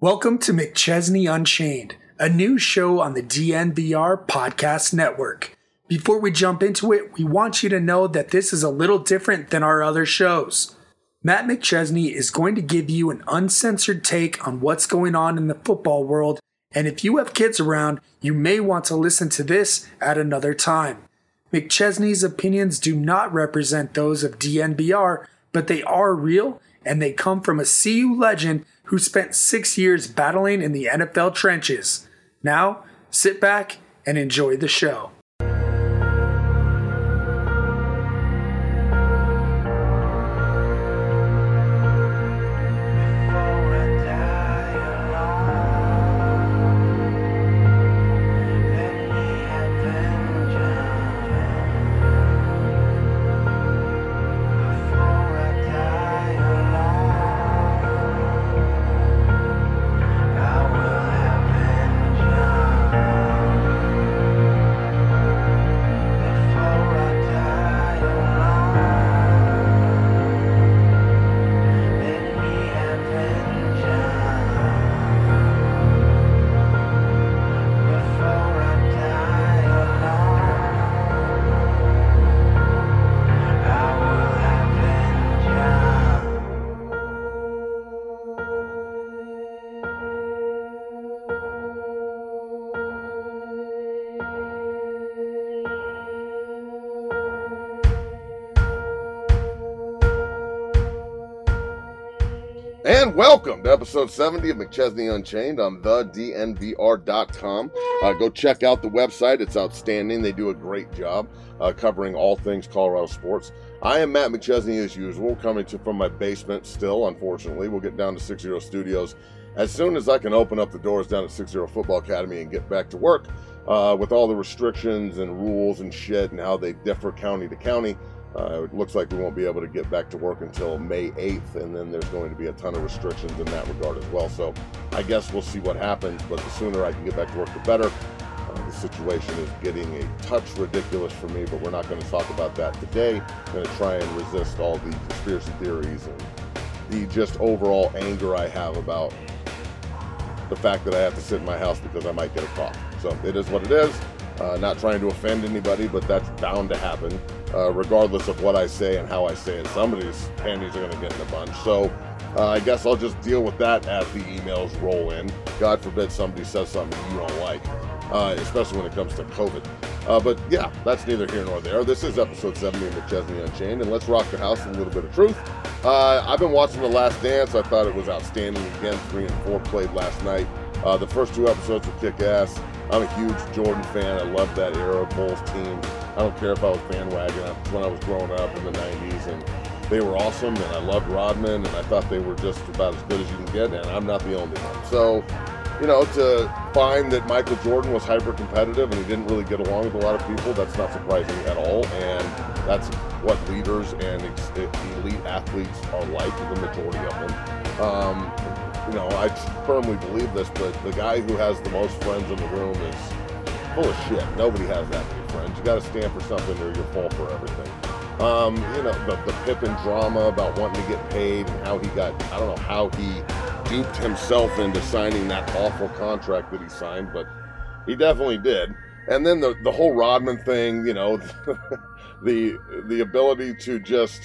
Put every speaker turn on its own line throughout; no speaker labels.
Welcome to McChesney Unchained, a new show on the DNVR Podcast Network. Before we jump into it, we want you to know that this is a little different than our other shows. Matt McChesney is going to give you an uncensored take on what's going on in the football world, and if you have kids around, you may want to listen to this at another time. McChesney's opinions do not represent those of DNVR, but they are real, and they come from a CU legend who spent 6 years battling in the NFL trenches. Now, sit back and enjoy the show.
And welcome to episode 70 of McChesney Unchained on thednvr.com. Go check out the website. It's outstanding. They do a great job covering all things Colorado sports. I am Matt McChesney as usual, coming from my basement still, unfortunately. We'll get down to 60 Studios as soon as I can open up the doors down at 60 Football Academy and get back to work with all the restrictions and rules and shit and how they differ county to county. It looks like we won't be able to get back to work until May 8th, and then there's going to be a ton of restrictions in that regard as well. So I guess we'll see what happens, but the sooner I can get back to work, the better. The situation is getting a touch ridiculous for me, but we're not going to talk about that today. I'm going to try and resist all the conspiracy theories and the just overall anger I have about the fact that I have to sit in my house because I might get a cough. So it is what it is. Not trying to offend anybody, but that's bound to happen. Regardless of what I say and how I say it, somebody's panties are going to get in a bunch. So I guess I'll just deal with that as the emails roll in. God forbid somebody says something you don't like, especially when it comes to COVID. But yeah, that's neither here nor there. This is episode 70 of McChesney Unchained, and let's rock the house with a little bit of truth. I've been watching The Last Dance. I thought it was outstanding again. 3 and 4 played last night. The first 2 episodes were kick-ass. I'm a huge Jordan fan. I love that era of Bulls team. I don't care if I was bandwagon. When I was growing up in the 90s, and they were awesome, and I loved Rodman, and I thought they were just about as good as you can get, and I'm not the only one. So, you know, to find that Michael Jordan was hyper-competitive and he didn't really get along with a lot of people, that's not surprising at all, and that's what leaders and elite athletes are like, the majority of them. You know, I firmly believe this, but the guy who has the most friends in the room is full of shit. Nobody has that many friends. You got to stand for something or you'll fall for everything. You know, the Pippen drama about wanting to get paid and how he got, I don't know how he duped himself into signing that awful contract that he signed, but he definitely did. And then the whole Rodman thing, you know, the ability to just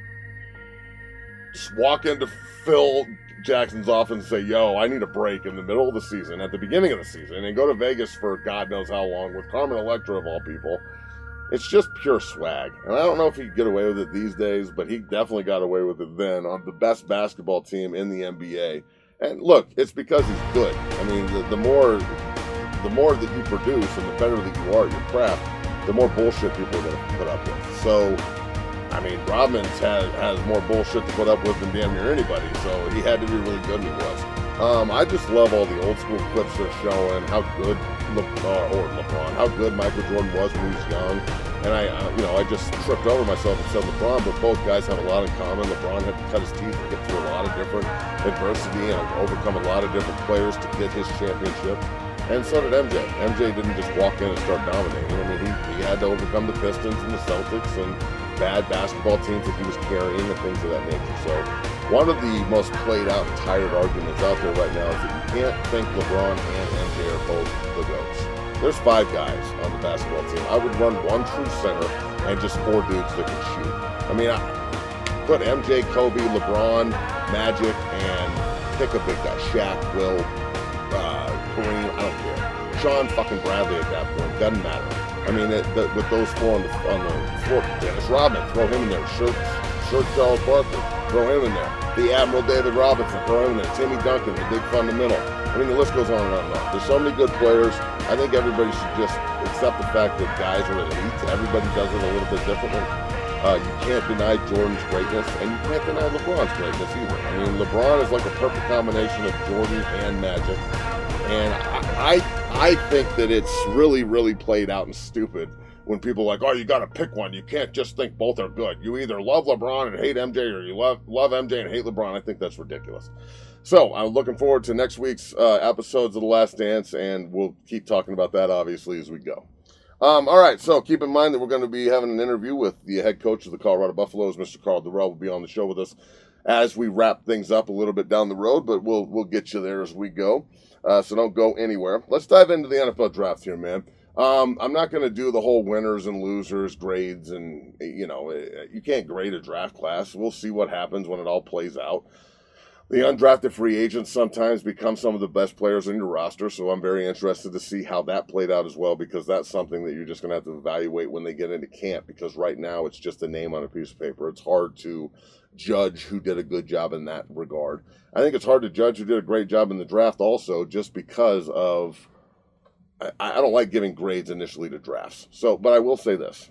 walk into Phil Jackson's office and say, yo, I need a break in the middle of the season, at the beginning of the season, and go to Vegas for God knows how long with Carmen Electra of all people. It's just pure swag. And I don't know if he could get away with it these days, but he definitely got away with it then on the best basketball team in the NBA. And look, it's because he's good. I mean, the more that you produce and the better that you are at your craft, the more bullshit people are going to put up with. So, I mean, Rodman has more bullshit to put up with than damn near anybody, so he had to be really good, and he was. I just love all the old school clips they're showing, how good how good Michael Jordan was when he was young. And I just tripped over myself and said LeBron, but both guys have a lot in common. LeBron had to cut his teeth and get through a lot of different adversity and overcome a lot of different players to get his championship. And so did MJ. MJ didn't just walk in and start dominating. I mean, he had to overcome the Pistons and the Celtics and bad basketball teams that he was carrying and things of that nature. So One of the most played out and tired arguments out there right now is that you can't think LeBron and MJ are both the GOATs. There's 5 guys on the basketball team. I would run one true center and just 4 dudes that can shoot. I mean, I put MJ, Kobe, LeBron, Magic, and pick a big guy. Shaq, Will, Kareem, I don't care. Sean fucking Bradley at that point, doesn't matter. I mean, with those 4 on the floor, Dennis Rodman, throw him in there. Shirt Charles Barkley, throw him in there. The Admiral David Robinson, throw him in there. Timmy Duncan, the big fundamental. I mean, the list goes on and on and on. There's so many good players. I think everybody should just accept the fact that guys are elite. Everybody does it a little bit differently. You can't deny Jordan's greatness, and you can't deny LeBron's greatness either. I mean, LeBron is like a perfect combination of Jordan and Magic. And I think that it's really, really played out and stupid when people are like, oh, you got to pick one. You can't just think both are good. You either love LeBron and hate MJ, or you love MJ and hate LeBron. I think that's ridiculous. So I'm looking forward to next week's episodes of The Last Dance, and we'll keep talking about that, obviously, as we go. All right, so keep in mind that we're going to be having an interview with the head coach of the Colorado Buffaloes, Mr. Karl Dorrell, will be on the show with us as we wrap things up a little bit down the road, but we'll get you there as we go. So don't go anywhere. Let's dive into the NFL draft here, man. I'm not going to do the whole winners and losers grades, and you can't grade a draft class. We'll see what happens when it all plays out. The undrafted free agents sometimes become some of the best players in your roster, so I'm very interested to see how that played out as well, because that's something that you're just going to have to evaluate when they get into camp, because right now it's just a name on a piece of paper. It's hard to judge who did a good job in that regard. I think it's hard to judge who did a great job in the draft also, just because of I don't like giving grades initially to drafts. But I will say this.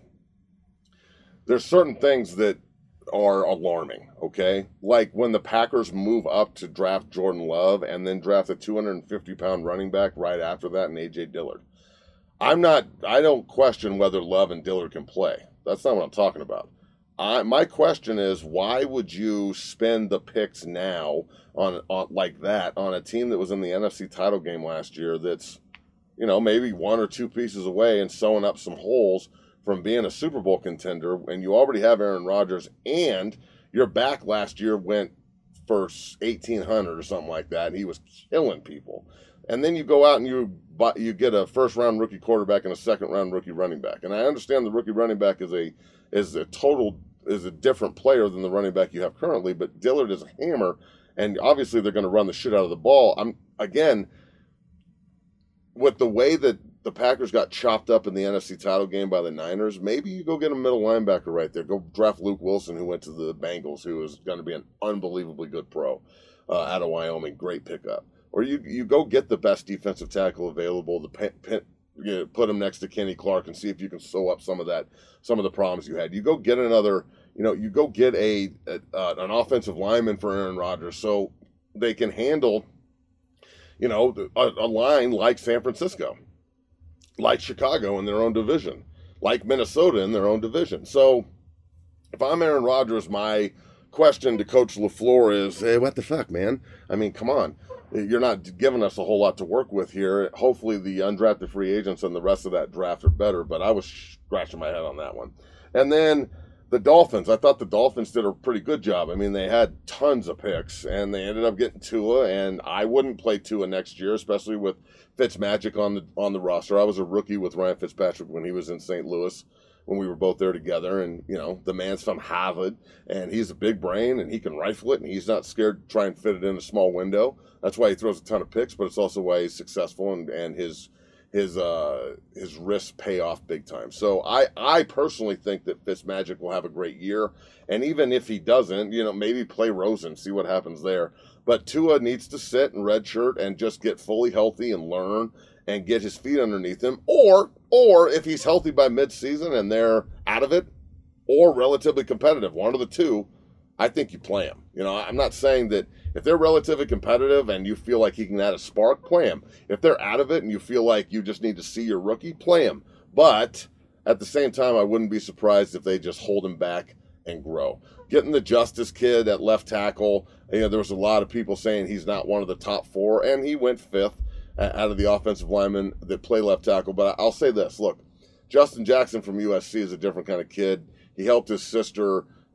There's certain things that are alarming, okay? Like when the Packers move up to draft Jordan Love and then draft a 250-pound running back right after that in A.J. Dillard. I don't question whether Love and Dillard can play. That's not what I'm talking about. My question is, why would you spend the picks now on like that on a team that was in the NFC title game last year that's, maybe 1 or 2 pieces away and sewing up some holes from being a Super Bowl contender, and you already have Aaron Rodgers, and your back last year went for 1,800 or something like that, and he was killing people. And then you go out and you get a first-round rookie quarterback and a second-round rookie running back. And I understand the rookie running back is a different player than the running back you have currently, but Dillard is a hammer, and obviously they're going to run the shit out of the ball. With the way that the Packers got chopped up in the NFC title game by the Niners, maybe you go get a middle linebacker right there. Go draft Luke Wilson, who went to the Bengals, who is going to be an unbelievably good pro out of Wyoming. Great pickup. Or you go get the best defensive tackle available, put him next to Kenny Clark and see if you can sew up some of the problems you had. You go get another, you go get an offensive lineman for Aaron Rodgers so they can handle, a line like San Francisco, like Chicago in their own division, like Minnesota in their own division. So if I'm Aaron Rodgers, my question to Coach LaFleur is, hey, what the fuck, man? I mean, come on. You're not giving us a whole lot to work with here. Hopefully the undrafted free agents and the rest of that draft are better, but I was scratching my head on that one. And then the Dolphins. I thought the Dolphins did a pretty good job. I mean, they had tons of picks, and they ended up getting Tua, and I wouldn't play Tua next year, especially with Fitzmagic on the roster. I was a rookie with Ryan Fitzpatrick when he was in St. Louis, when we were both there together, and, the man's from Harvard, and he's a big brain, and he can rifle it, and he's not scared to try and fit it in a small window. That's why he throws a ton of picks, but it's also why he's successful, and his risks pay off big time. So I personally think that Fitzmagic will have a great year, and even if he doesn't, maybe play Rosen, see what happens there. But Tua needs to sit and redshirt and just get fully healthy and learn and get his feet underneath him, or if he's healthy by midseason and they're out of it, or relatively competitive, one of the two, I think you play him. I'm not saying that if they're relatively competitive and you feel like he can add a spark, play him. If they're out of it and you feel like you just need to see your rookie, play him. But at the same time, I wouldn't be surprised if they just hold him back and grow. Getting the Justice kid at left tackle, there was a lot of people saying he's not one of the top 4, and he went 5th out of the offensive linemen that play left tackle. But I'll say this, look, Justin Jackson from USC is a different kind of kid. He helped his sister,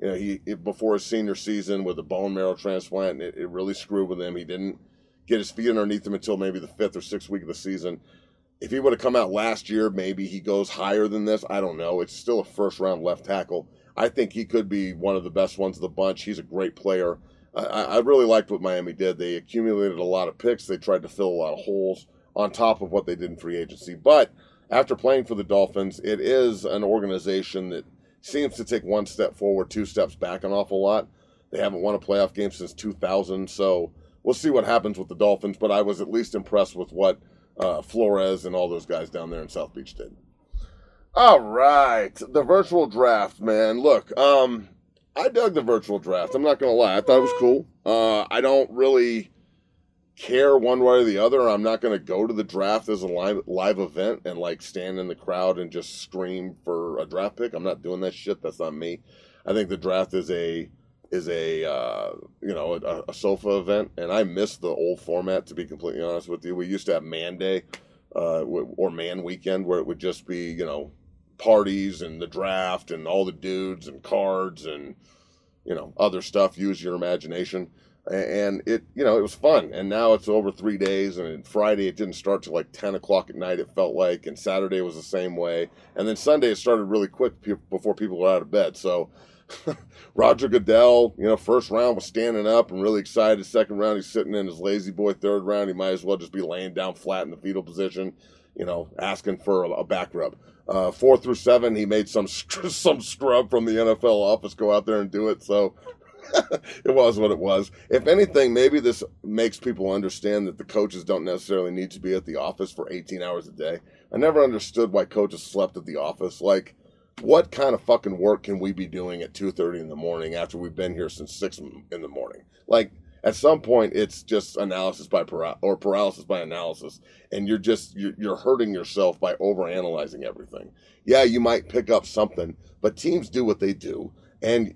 he before his senior season with a bone marrow transplant, and it really screwed with him. He didn't get his feet underneath him until maybe the 5th or 6th week of the season. If he would have come out last year, maybe he goes higher than this. I don't know. It's still a first-round left tackle. I think he could be one of the best ones of the bunch. He's a great player. I really liked what Miami did. They accumulated a lot of picks. They tried to fill a lot of holes on top of what they did in free agency. But after playing for the Dolphins, it is an organization that seems to take one step forward, 2 steps back an awful lot. They haven't won a playoff game since 2000, so we'll see what happens with the Dolphins, but I was at least impressed with what Flores and all those guys down there in South Beach did. All right, the virtual draft, man. Look, I dug the virtual draft. I'm not going to lie. I thought it was cool. I don't really care one way or the other. I'm not going to go to the draft as a live event and like stand in the crowd and just scream for a draft pick. I'm not doing that shit. That's not me. I think the draft is a sofa event, and I miss the old format, to be completely honest with you. We used to have Man Day or Man Weekend, where it would just be, parties and the draft and all the dudes and cards and, other stuff. Use your imagination. And it was fun. And now it's over 3 days, and Friday it didn't start till like 10 o'clock at night, it felt like, and Saturday was the same way. And then Sunday it started really quick before people were out of bed. So Roger Goodell, first round was standing up and really excited. Second round, he's sitting in his lazy boy. Third round, he might as well just be laying down flat in the fetal position, asking for a back rub. 4 through 7, he made some scrub from the NFL office go out there and do it. So it was what it was. If anything, maybe this makes people understand that the coaches don't necessarily need to be at the office for 18 hours a day. I never understood why coaches slept at the office. Like, what kind of fucking work can we be doing at 2:30 in the morning after we've been here since 6 in the morning? Like, at some point, it's just paralysis by analysis, and you're hurting yourself by overanalyzing everything. Yeah, you might pick up something, but teams do what they do, and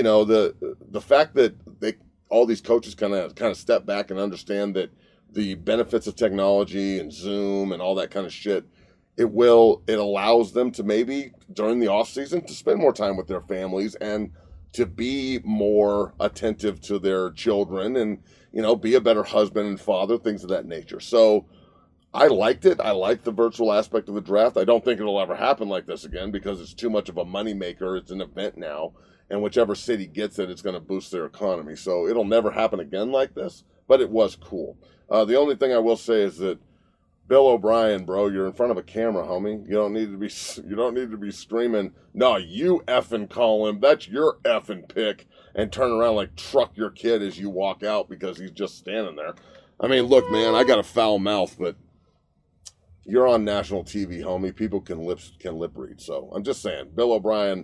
the fact that all these coaches kind of step back and understand that the benefits of technology and Zoom and all that kind of shit. It allows them to maybe during the off season to spend more time with their families and to be more attentive to their children and, be a better husband and father, things of that nature. So I liked it. I liked the virtual aspect of the draft. I don't think it'll ever happen like this again because it's too much of a moneymaker. It's an event now, and whichever city gets it, it's going to boost their economy. So it'll never happen again like this, but it was cool. The only thing I will say is that Bill O'Brien, bro, you're in front of a camera, homie. You don't need to be screaming, "No, you effing call him. That's your effing pick," and turn around like truck your kid as you walk out because he's just standing there. I mean, look, man, I got a foul mouth, but you're on national TV, homie. People can lip read. So I'm just saying, Bill O'Brien,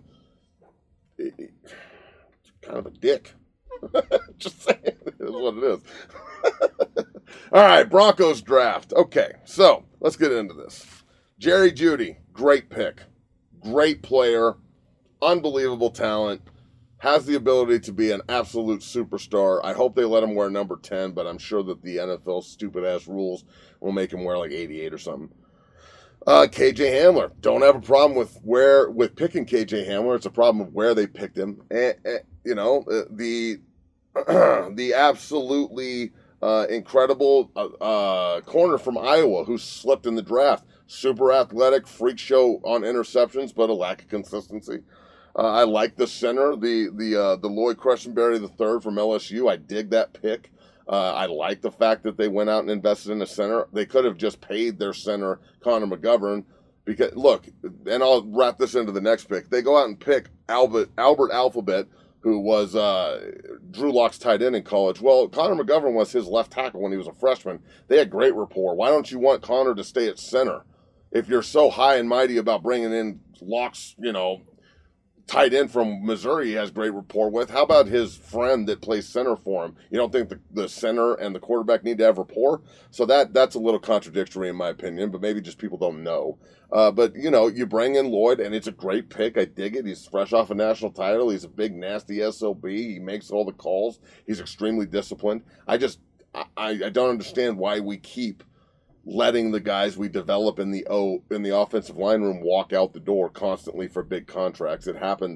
kind of a dick. Just saying, it is what it is. All right, Broncos draft. Okay, so let's get into this. Jerry Jeudy, great pick. Great player. Unbelievable talent. Has the ability to be an absolute superstar. I hope they let him wear number 10, but I'm sure that the NFL's stupid-ass rules will make him wear like 88 or something. KJ Hamler. Don't have a problem with picking KJ Hamler. It's a problem of where they picked him. The absolutely incredible corner from Iowa who slipped in the draft. Super athletic, freak show on interceptions, but a lack of consistency. I like the center, the Lloyd Crescenberry III from LSU. I dig that pick. I like the fact that they went out and invested in a center. They could have just paid their center, Connor McGovern, because look, and I'll wrap this into the next pick. They go out and pick Albert Alphabet, who was Drew Lock's tight end in college. Well, Connor McGovern was his left tackle when he was a freshman. They had great rapport. Why don't you want Connor to stay at center? If you're so high and mighty about bringing in Lock's, tight end from Missouri he has great rapport with, how about his friend that plays center for him? You don't think the center and the quarterback need to have rapport? So that's a little contradictory in my opinion, but maybe just people don't know. But you bring in Lloyd, and it's a great pick. I dig it. He's fresh off a national title. He's a big, nasty SOB. He makes all the calls. He's extremely disciplined. I don't understand why we keep letting the guys we develop in the offensive line room walk out the door constantly for big contracts. It happens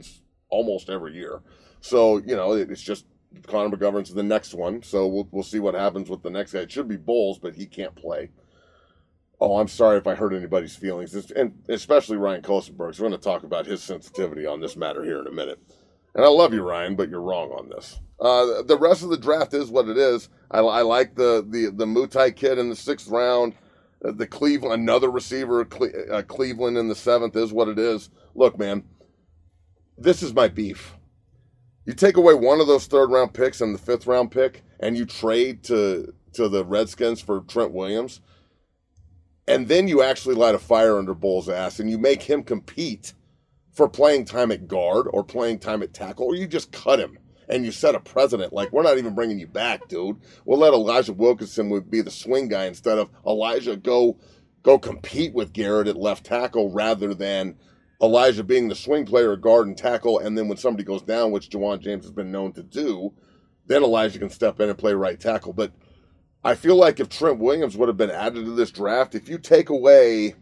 almost every year. So, it's just Connor McGovern's the next one. So we'll see what happens with the next guy. It should be Bowles, but he can't play. Oh, I'm sorry if I hurt anybody's feelings, and especially Ryan Kostenberg. So we're going to talk about his sensitivity on this matter here in a minute. And I love you, Ryan, but you're wrong on this. The rest of the draft is what it is. I like the Mutai kid in the 6th round. The Cleveland, another receiver, Cleveland in the 7th is what it is. Look, man, this is my beef. You take away one of those 3rd-round picks and the 5th-round pick, and you trade to the Redskins for Trent Williams, and then you actually light a fire under Bowles' ass, and you make him compete for playing time at guard or playing time at tackle, or you just cut him, and you set a precedent. Like, we're not even bringing you back, dude. We'll let Elijah Wilkinson be the swing guy instead of Elijah go compete with Garrett at left tackle rather than Elijah being the swing player at guard and tackle, and then when somebody goes down, which Juwan James has been known to do, then Elijah can step in and play right tackle. But I feel like if Trent Williams would have been added to this draft, if you take away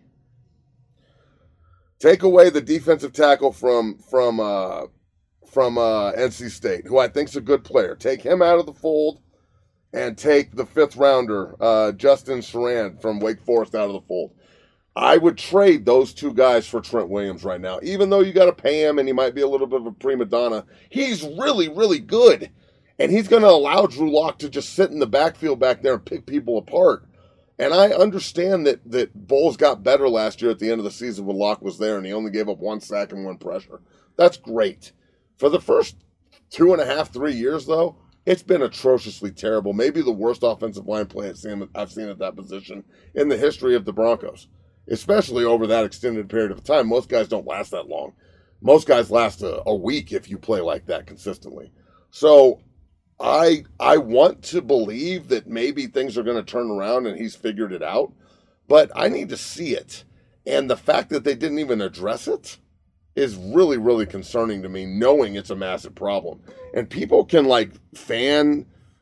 the defensive tackle from NC State, who I think is a good player, take him out of the fold, and take the 5th rounder, Justin Saran from Wake Forest out of the fold. I would trade those 2 guys for Trent Williams right now, even though you got to pay him and he might be a little bit of a prima donna. He's really, really good. And he's going to allow Drew Lock to just sit in the backfield back there and pick people apart. And I understand that Bowles got better last year at the end of the season when Lock was there and he only gave up 1 sack and 1 pressure. That's great. For the first 2.5, 3 years, though, it's been atrociously terrible. Maybe the worst offensive line play I've seen at that position in the history of the Broncos, especially over that extended period of time. Most guys don't last that long. Most guys last a week if you play like that consistently. So I want to believe that maybe things are going to turn around and he's figured it out, but I need to see it. And the fact that they didn't even address it is really, really concerning to me, knowing it's a massive problem. And people can fan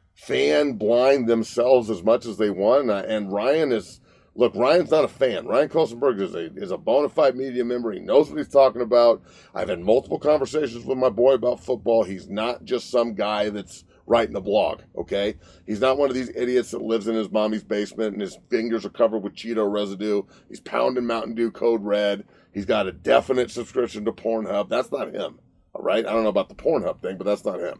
blind themselves as much as they want. And Ryan's not a fan. Ryan Kostenberg is a bona fide media member. He knows what he's talking about. I've had multiple conversations with my boy about football. He's not just some guy that's writing the blog, okay? He's not one of these idiots that lives in his mommy's basement and his fingers are covered with Cheeto residue. He's pounding Mountain Dew Code Red. He's got a definite subscription to Pornhub. That's not him, all right? I don't know about the Pornhub thing, but that's not him.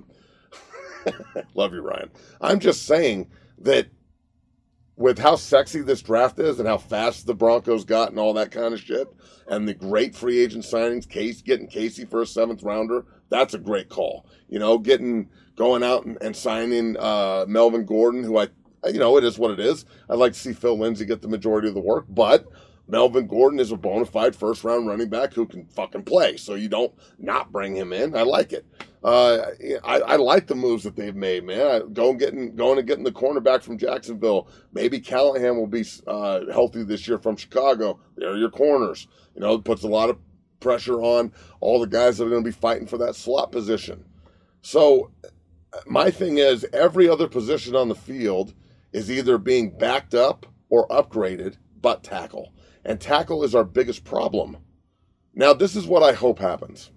Love you, Ryan. I'm just saying that with how sexy this draft is and how fast the Broncos got and all that kind of shit, and the great free agent signings, getting Casey for a 7th rounder, that's a great call. Going out and signing Melvin Gordon, who it is what it is. I'd like to see Phil Lindsay get the majority of the work, but Melvin Gordon is a bona fide 1st-round running back who can fucking play, so you don't not bring him in. I like it. I like the moves that they've made, man. Going and getting the cornerback from Jacksonville. Maybe Callahan will be healthy this year from Chicago. There are your corners. It puts a lot of pressure on all the guys that are going to be fighting for that slot position. So my thing is, every other position on the field is either being backed up or upgraded but tackle. And tackle is our biggest problem. Now, this is what I hope happens.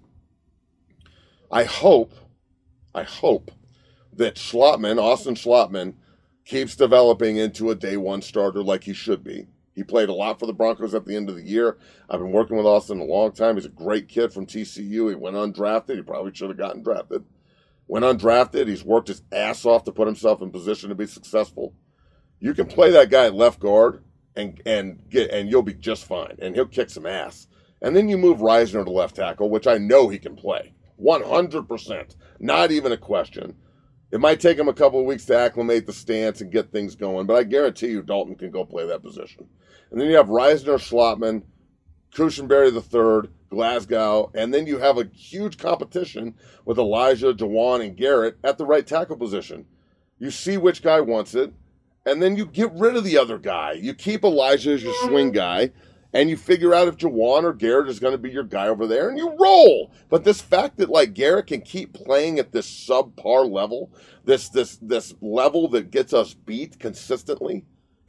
I hope that Austin Schlottman, keeps developing into a day 1 starter like he should be. He played a lot for the Broncos at the end of the year. I've been working with Austin a long time. He's a great kid from TCU. He went undrafted. He probably should have gotten drafted. Went undrafted. He's worked his ass off to put himself in position to be successful. You can play that guy at left guard and you'll be just fine. And he'll kick some ass. And then you move Reisner to left tackle, which I know he can play. 100%. Not even a question. It might take him a couple of weeks to acclimate the stance and get things going, but I guarantee you Dalton can go play that position. And then you have Reisner, Schlottman, Cushenberry III, Glasgow, and then you have a huge competition with Elijah, Juwan, and Garrett at the right tackle position. You see which guy wants it, and then you get rid of the other guy. You keep Elijah as your swing guy, and you figure out if Juwan or Garrett is going to be your guy over there, and you roll. But this fact that Garrett can keep playing at this subpar level, this level that gets us beat consistently,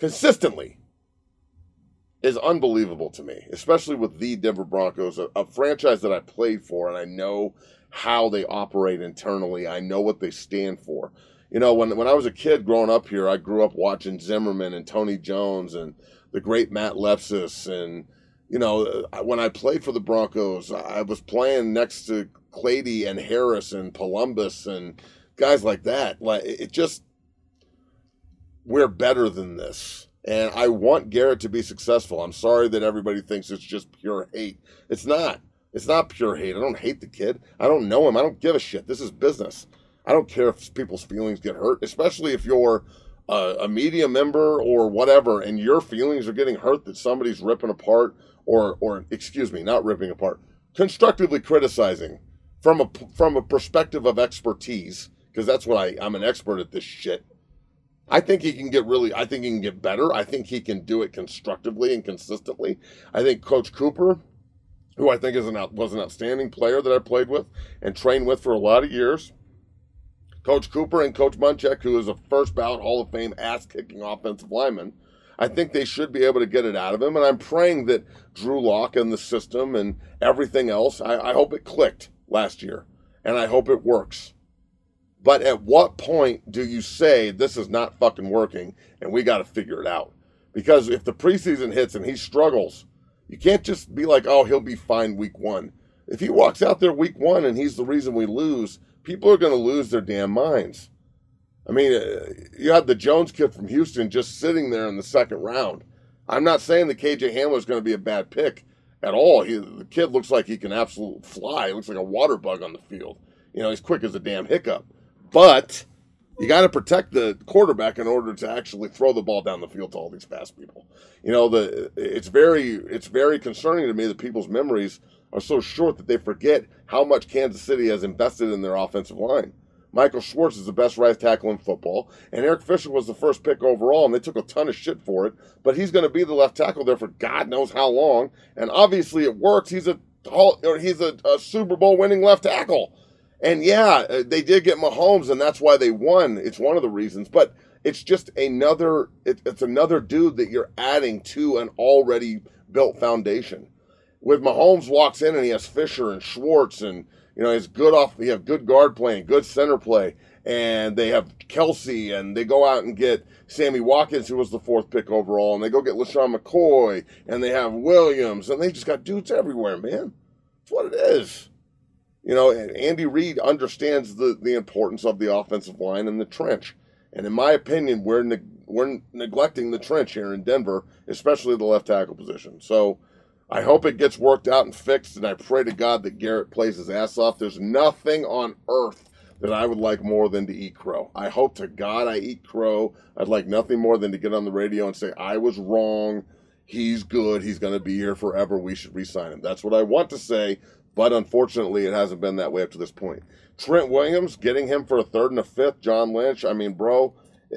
is unbelievable to me, especially with the Denver Broncos, a franchise that I played for and I know how they operate internally. I know what they stand for. You know, when I was a kid growing up here, I grew up watching Zimmerman and Tony Jones and the great Matt Lepsis. And, you know, when I played for the Broncos, I was playing next to Clady and Harris and Columbus and guys like that. Like, it just, we're better than this. And I want Garrett to be successful. I'm sorry that everybody thinks it's just pure hate. It's not. It's not pure hate. I don't hate the kid. I don't know him. I don't give a shit. This is business. I don't care if people's feelings get hurt, especially if you're a media member or whatever, and your feelings are getting hurt that somebody's ripping apart or excuse me, not ripping apart, constructively criticizing from a perspective of expertise, because that's what I'm an expert at this shit. I think he can get better. I think he can do it constructively and consistently. I think Coach Cooper, who I think was an outstanding player that I played with and trained with for a lot of years, Coach Cooper and Coach Munchak, who is a first ballot Hall of Fame ass-kicking offensive lineman, I think they should be able to get it out of him. And I'm praying that Drew Lock and the system and everything else, I hope it clicked last year. And I hope it works. But at what point do you say this is not fucking working and we got to figure it out? Because if the preseason hits and he struggles, you can't just be like, oh, he'll be fine week one. If he walks out there week one and he's the reason we lose, people are going to lose their damn minds. I mean, you had the Jones kid from Houston just sitting there in the second round. I'm not saying that KJ Hamler is going to be a bad pick at all. The kid looks like he can absolutely fly. He looks like a water bug on the field. You know, he's quick as a damn hiccup. But you got to protect the quarterback in order to actually throw the ball down the field to all these fast people. You know, it's very concerning to me that people's memories are so short that they forget how much Kansas City has invested in their offensive line. Michael Schwartz is the best right tackle in football, and Eric Fisher was the first pick overall, and they took a ton of shit for it, but he's going to be the left tackle there for God knows how long, and obviously it works. He's a Super Bowl winning left tackle. And yeah, they did get Mahomes, and that's why they won. It's one of the reasons, but it's just it's another dude that you're adding to an already built foundation. With Mahomes walks in and he has Fisher and Schwartz and, you know, he have good guard play and good center play, and they have Kelsey, and they go out and get Sammy Watkins, who was the fourth pick overall, and they go get LaShawn McCoy, and they have Williams, and they just got dudes everywhere, man. That's what it is. You know, and Andy Reid understands the importance of the offensive line and the trench. And in my opinion, we're neglecting the trench here in Denver, especially the left tackle position. So I hope it gets worked out and fixed, and I pray to God that Garrett plays his ass off. There's nothing on earth that I would like more than to eat crow. I hope to God I eat crow. I'd like nothing more than to get on the radio and say, I was wrong. He's good. He's going to be here forever. We should re-sign him. That's what I want to say. But unfortunately, it hasn't been that way up to this point. Trent Williams, getting him for a third and a fifth. John Lynch, I mean, bro,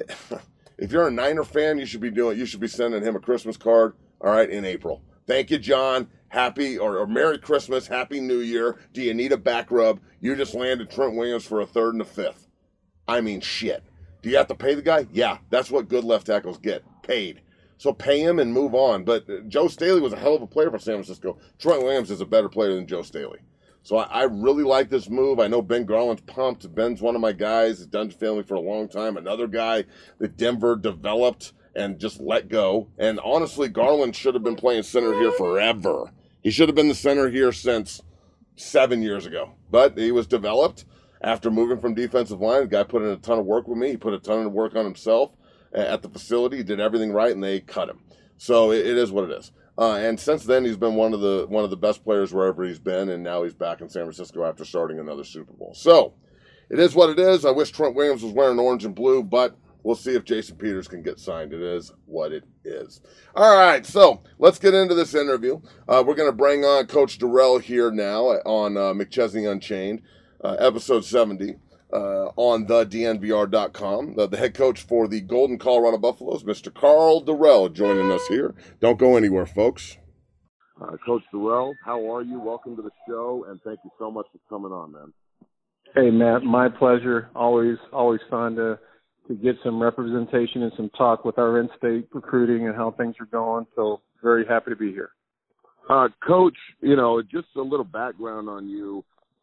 if you're a Niner fan, you should be sending him a Christmas card, all right, in April. Thank you, John. Happy or Merry Christmas, Happy New Year. Do you need a back rub? You just landed Trent Williams for a third and a fifth. I mean, shit. Do you have to pay the guy? Yeah, that's what good left tackles get, paid. So pay him and move on. But Joe Staley was a hell of a player for San Francisco. Trent Williams is a better player than Joe Staley. So I really like this move. I know Ben Garland's pumped. Ben's one of my guys. He's done family for a long time. Another guy that Denver developed and just let go. And honestly, Garland should have been playing center here forever. He should have been the center here since 7 years ago. But he was developed after moving from defensive line. The guy put in a ton of work with me. He put a ton of work on himself at the facility. He did everything right, and they cut him. So it is what it is. And since then, he's been one of the best players wherever he's been, and now he's back in San Francisco after starting another Super Bowl. So it is what it is. I wish Trent Williams was wearing orange and blue, but we'll see if Jason Peters can get signed. It is what it is. All right, so let's get into this interview. We're going to bring on Coach Dorrell here now on McChesney Unchained, episode 70. On the DNVR.com. The head coach for the Golden Colorado Buffaloes, Mr. Karl Dorrell, joining us here. Don't go anywhere, folks.
Coach Dorrell, how are you? Welcome to the show, and thank you so much for coming on, man.
Hey, Matt, my pleasure. Always fun to get some representation and some talk with our in-state recruiting and how things are going. So very happy to be here.
Coach, just a little background on you.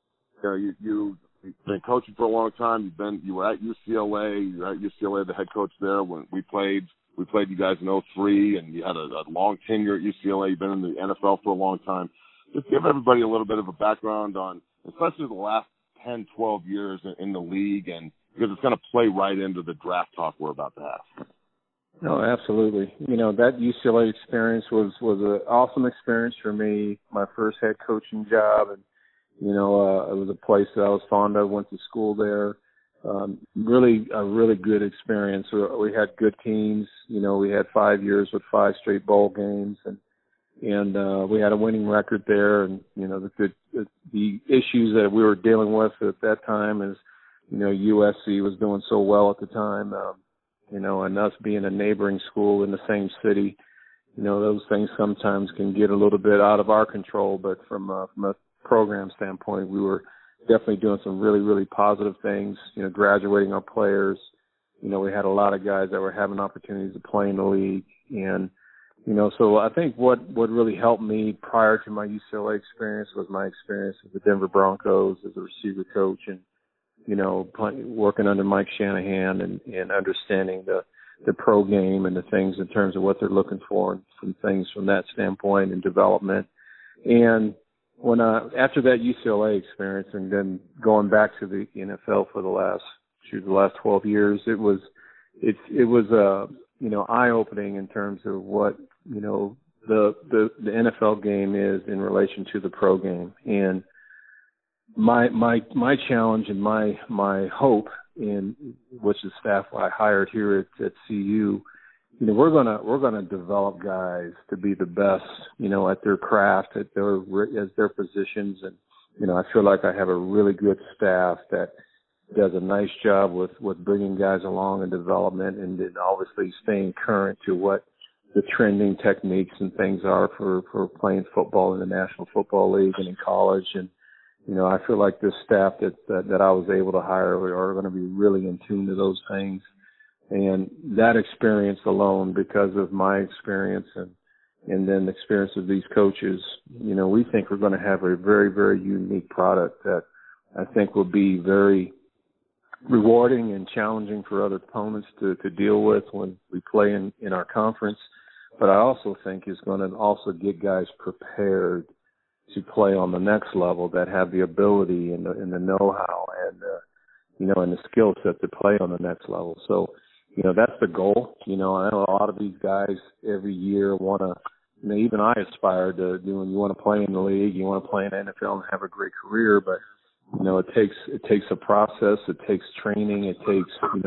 you've been coaching for a long time. You were at UCLA. You're at UCLA, the head coach there when we played you guys in 2003, and you had a long tenure at UCLA. You've been in the NFL for a long time. Just give everybody a little bit of a background on, especially the last 10, 12 years in the league, and because it's going to play right into the draft talk we're about to have.
No, absolutely. That UCLA experience was an awesome experience for me. My first head coaching job, and it was a place that I was fond of. Went to school there. Really a really good experience. We had good teams. We had 5 years with 5 straight bowl games, and we had a winning record there. And the issues that we were dealing with at that time is, USC was doing so well at the time. And us being a neighboring school in the same city, those things sometimes can get a little bit out of our control. But from a program standpoint, we were definitely doing some really, really positive things, graduating our players. We had a lot of guys that were having opportunities to play in the league. And, so I think what really helped me prior to my UCLA experience was my experience with the Denver Broncos as a receiver coach and, working under Mike Shanahan and understanding the pro game and the things in terms of what they're looking for and some things from that standpoint and development. And when after that UCLA experience and then going back to the NFL for the last 12 years, it was eye-opening in terms of what the NFL game is in relation to the pro game. And my challenge and my hope, in which the staff I hired here at CU, we're gonna develop guys to be the best, at their craft, as their positions, and I feel like I have a really good staff that does a nice job with bringing guys along in development, and then obviously staying current to what the trending techniques and things are for playing football in the National Football League and in college. And I feel like this staff that I was able to hire are going to be really in tune to those things. And that experience alone, because of my experience and then the experience of these coaches, we think we're going to have a very, very unique product that I think will be very rewarding and challenging for other opponents to deal with when we play in our conference. But I also think is going to also get guys prepared to play on the next level that have the ability and the know-how and the skill set to play on the next level. So, that's the goal. I know a lot of these guys every year want to, even I aspire to do, and you want to play in the league, you want to play in the NFL and have a great career, but, it takes a process, it takes training, it takes,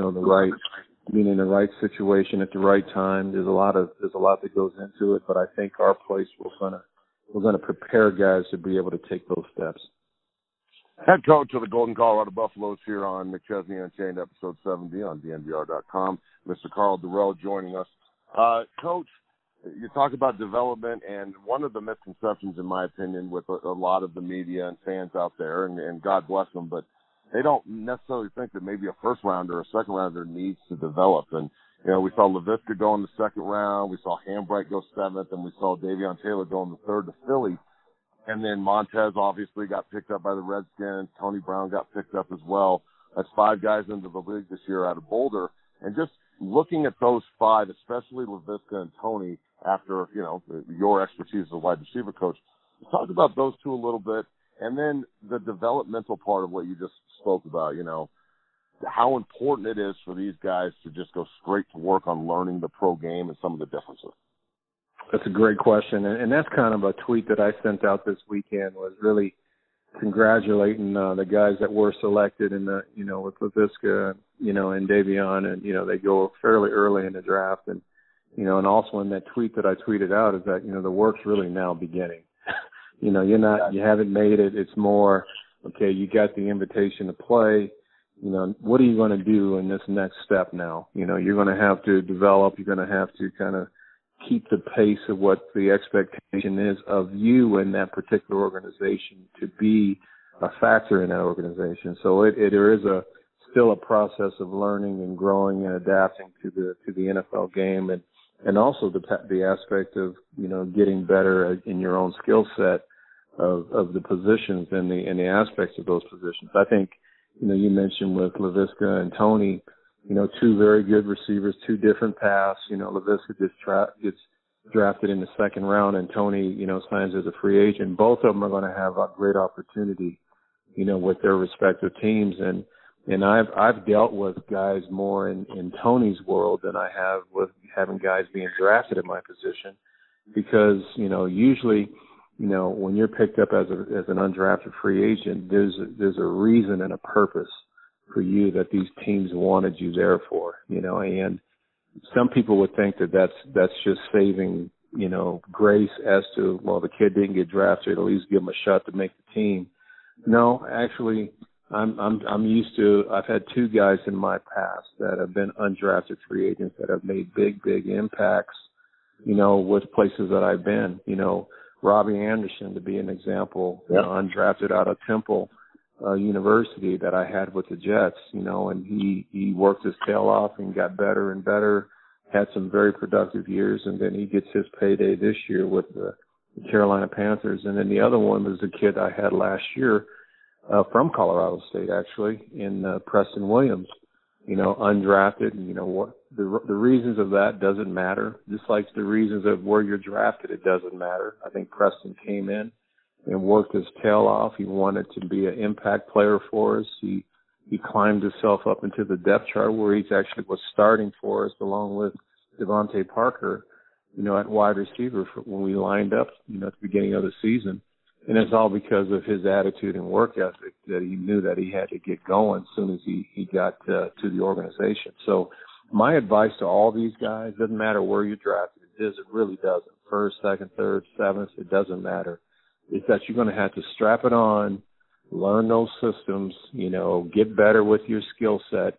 being in the right situation at the right time. There's a lot that goes into it, but I think our place we're going to prepare guys to be able to take those steps.
Head coach of the Golden Colorado Buffaloes here on McChesney Unchained, episode 70 on DNVR.com. Mr. Karl Dorrell joining us. Coach, you talk about development, and one of the misconceptions, in my opinion, with a lot of the media and fans out there, and God bless them, but they don't necessarily think that maybe a first-rounder or a second-rounder needs to develop. And, we saw Laviska go in the second round, we saw Hambright go 7th, and we saw Davion Taylor go in the 3rd to Philly. And then Montez obviously got picked up by the Redskins. Tony Brown got picked up as well. That's 5 guys into the league this year out of Boulder. And just looking at those 5, especially Laviska and Tony, after, your expertise as a wide receiver coach, talk about those 2 a little bit. And then the developmental part of what you just spoke about, how important it is for these guys to just go straight to work on learning the pro game and some of the differences.
That's a great question. And that's kind of a tweet that I sent out this weekend, was really congratulating the guys that were selected in the, with Laviska, and Davion, and, they go fairly early in the draft. And, and also in that tweet that I tweeted out is that, the work's really now beginning. You haven't made it. It's more, okay, you got the invitation to play. What are you going to do in this next step now? You're going to have to develop. You're going to have to kind of keep the pace of what the expectation is of you in that particular organization to be a factor in that organization. So there is still a process of learning and growing and adapting to the NFL game, and also the aspect of getting better in your own skill set. of the positions and the aspects of those positions. I think, you mentioned with Laviska and Tony, two very good receivers, two different paths. Laviska gets drafted in the second round, and Tony, signs as a free agent. Both of them are going to have a great opportunity, with their respective teams. And I've dealt with guys more in Tony's world than I have with having guys being drafted at my position, because usually, when you're picked up as an undrafted free agent, there's a reason and a purpose for you that these teams wanted you there for, and some people would think that that's just saving, grace as to, well, the kid didn't get drafted, at least give him a shot to make the team. No, actually, I'm used to, I've had two guys in my past that have been undrafted free agents that have made big impacts, with places that I've been. Robbie Anderson, to be an example, undrafted out of Temple University that I had with the Jets, and he worked his tail off and got better and better, had some very productive years, and then he gets his payday this year with the Carolina Panthers. And then the other one was a kid I had last year from Colorado State, actually, in Preston Williams, undrafted. And what the reasons of that doesn't matter. Just like the reasons of where you're drafted, it doesn't matter. I think Preston came in and worked his tail off. He wanted to be an impact player for us. He climbed himself up into the depth chart where he actually was starting for us along with Devontae Parker, at wide receiver when we lined up, at the beginning of the season. And it's all because of his attitude and work ethic that he knew that he had to get going as soon as he got to the organization. So my advice to all these guys, doesn't matter where you're drafted, it really doesn't. First, second, third, seventh, it doesn't matter. It's that you're going to have to strap it on, learn those systems, get better with your skill set,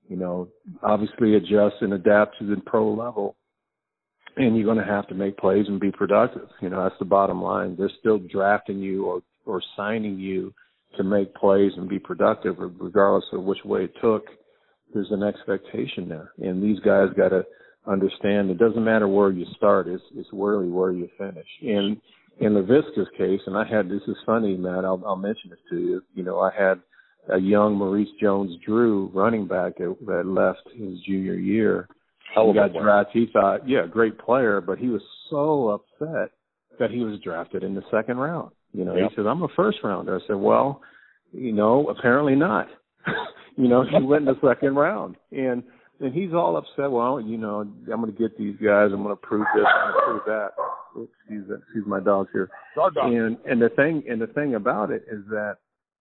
obviously adjust and adapt to the pro level. And you're going to have to make plays and be productive. That's the bottom line. They're still drafting you or signing you to make plays and be productive, regardless of which way it took. There's an expectation there. And these guys got to understand it doesn't matter where you start. It's really where you finish. And in Laviska's case, and this is funny, Matt, I'll mention this to you. I had a young Maurice Jones-Drew running back that left his junior year. He got drafted. He thought, great player, but he was so upset that he was drafted in the second round. He said, I'm a first rounder. I said, well, apparently not. He went in the second round. And he's all upset. Well, I'm going to get these guys. I'm going to prove this. I'm going to prove that. Oops, excuse my dog here. And the thing about it is that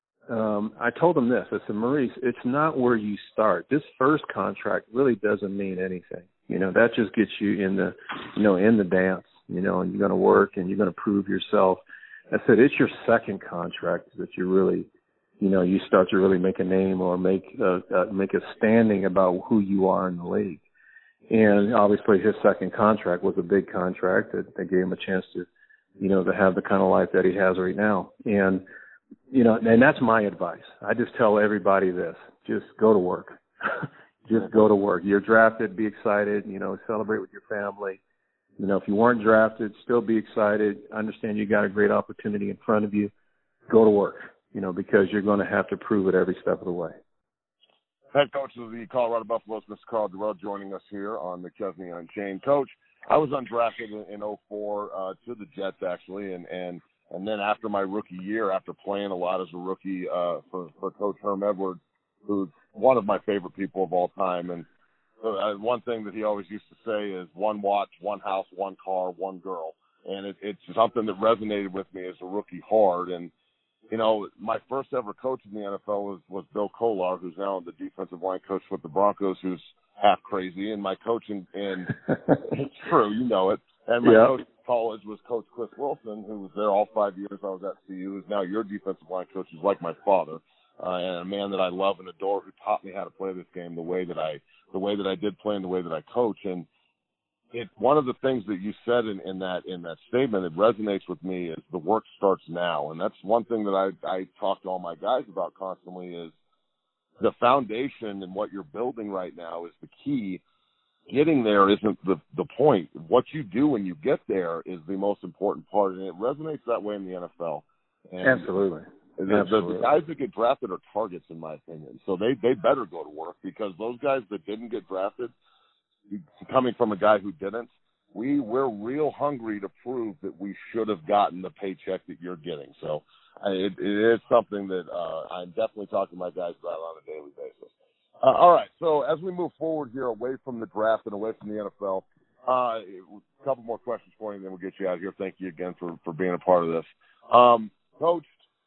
I told him this. I said, Maurice, it's not where you start. This first contract really doesn't mean anything. That just gets you in the, in the dance, and you're going to work and you're going to prove yourself. I said, it's your second contract that you really, you start to really make a name or make a standing about who you are in the league. And obviously his second contract was a big contract that gave him a chance to, to have the kind of life that he has right now. And, and that's my advice. I just tell everybody this, just go to work. Just go to work. You're drafted, be excited, celebrate with your family. If you weren't drafted, still be excited. Understand you got a great opportunity in front of you. Go to work, because you're going to have to prove it every step of the way.
Head coach of the Colorado Buffaloes, Mr. Karl Dorrell, joining us here on McChesney Unchained. Coach, I was undrafted in 2004 to the Jets, actually, and then after my rookie year, after playing a lot as a rookie for Coach Herm Edwards, who's one of my favorite people of all time. And one thing that he always used to say is one watch, one house, one car, one girl. And it's something that resonated with me as a rookie hard. And, my first ever coach in the NFL was Bill Kolar, who's now the defensive line coach with the Broncos, who's half crazy. And my coach in it's true, it. And my coach in college was Coach Chris Wilson, who was there all 5 years I was at CU, who's now your defensive line coach, who's like my father. And a man that I love and adore, who taught me how to play this game the way that I did play and the way that I coach. And one of the things that you said in that statement that resonates with me is the work starts now. And that's one thing that I talk to all my guys about constantly is the foundation and what you're building right now is the key. Getting there isn't the point. What you do when you get there is the most important part. And it resonates that way in the NFL. And
Absolutely.
The guys that get drafted are targets, in my opinion. So they better go to work, because those guys that didn't get drafted, coming from a guy who didn't, we're real hungry to prove that we should have gotten the paycheck that you're getting. So it is something that I'm definitely talking to my guys about on a daily basis. All right, so as we move forward here, away from the draft and away from the NFL, a couple more questions for you, and then we'll get you out of here. Thank you again for being a part of this. Coach,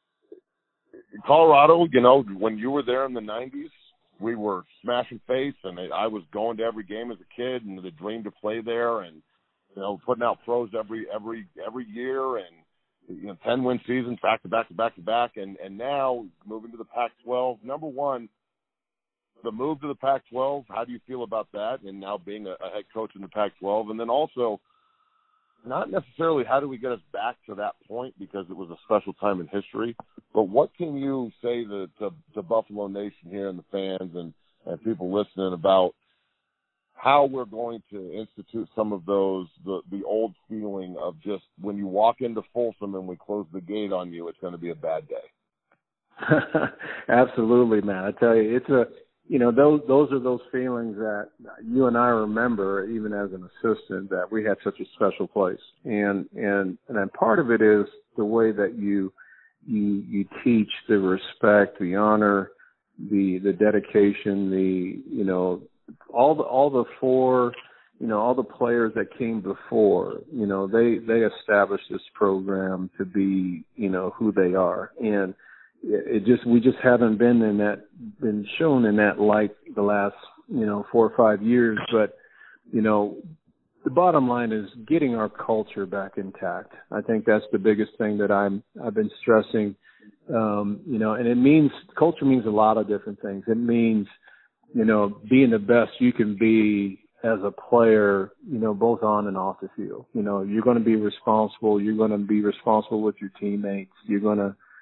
Colorado, when you were there in the 90s, we were smashing face, and I was going to every game as a kid, and the dream to play there, and putting out pros every year, and 10-win seasons back to back, and now moving to the Pac-12. Number one, the move to the Pac-12. How do you feel about that, and now being a head coach in the Pac-12, and then also, not necessarily how do we get us back to that point, because it was a special time in history, but what can you say to Buffalo Nation here and the fans and people listening about how we're going to institute some of those, the old feeling of just when you walk into Folsom and we close the gate on you, it's going to be a bad day?
Absolutely, man. I tell you, it's those are those feelings that you and I remember, even as an assistant, that we had such a special place. And part of it is the way that you teach the respect, the honor, the dedication, all the players that came before, they established this program to be, who they are. And we just haven't been shown in that light the last 4 or 5 years. But the bottom line is getting our culture back intact. I think that's the biggest thing that I've been stressing. And culture means a lot of different things. It means being the best you can be as a player, both on and off the field. You're going to be responsible. You're going to be responsible with your teammates. You're going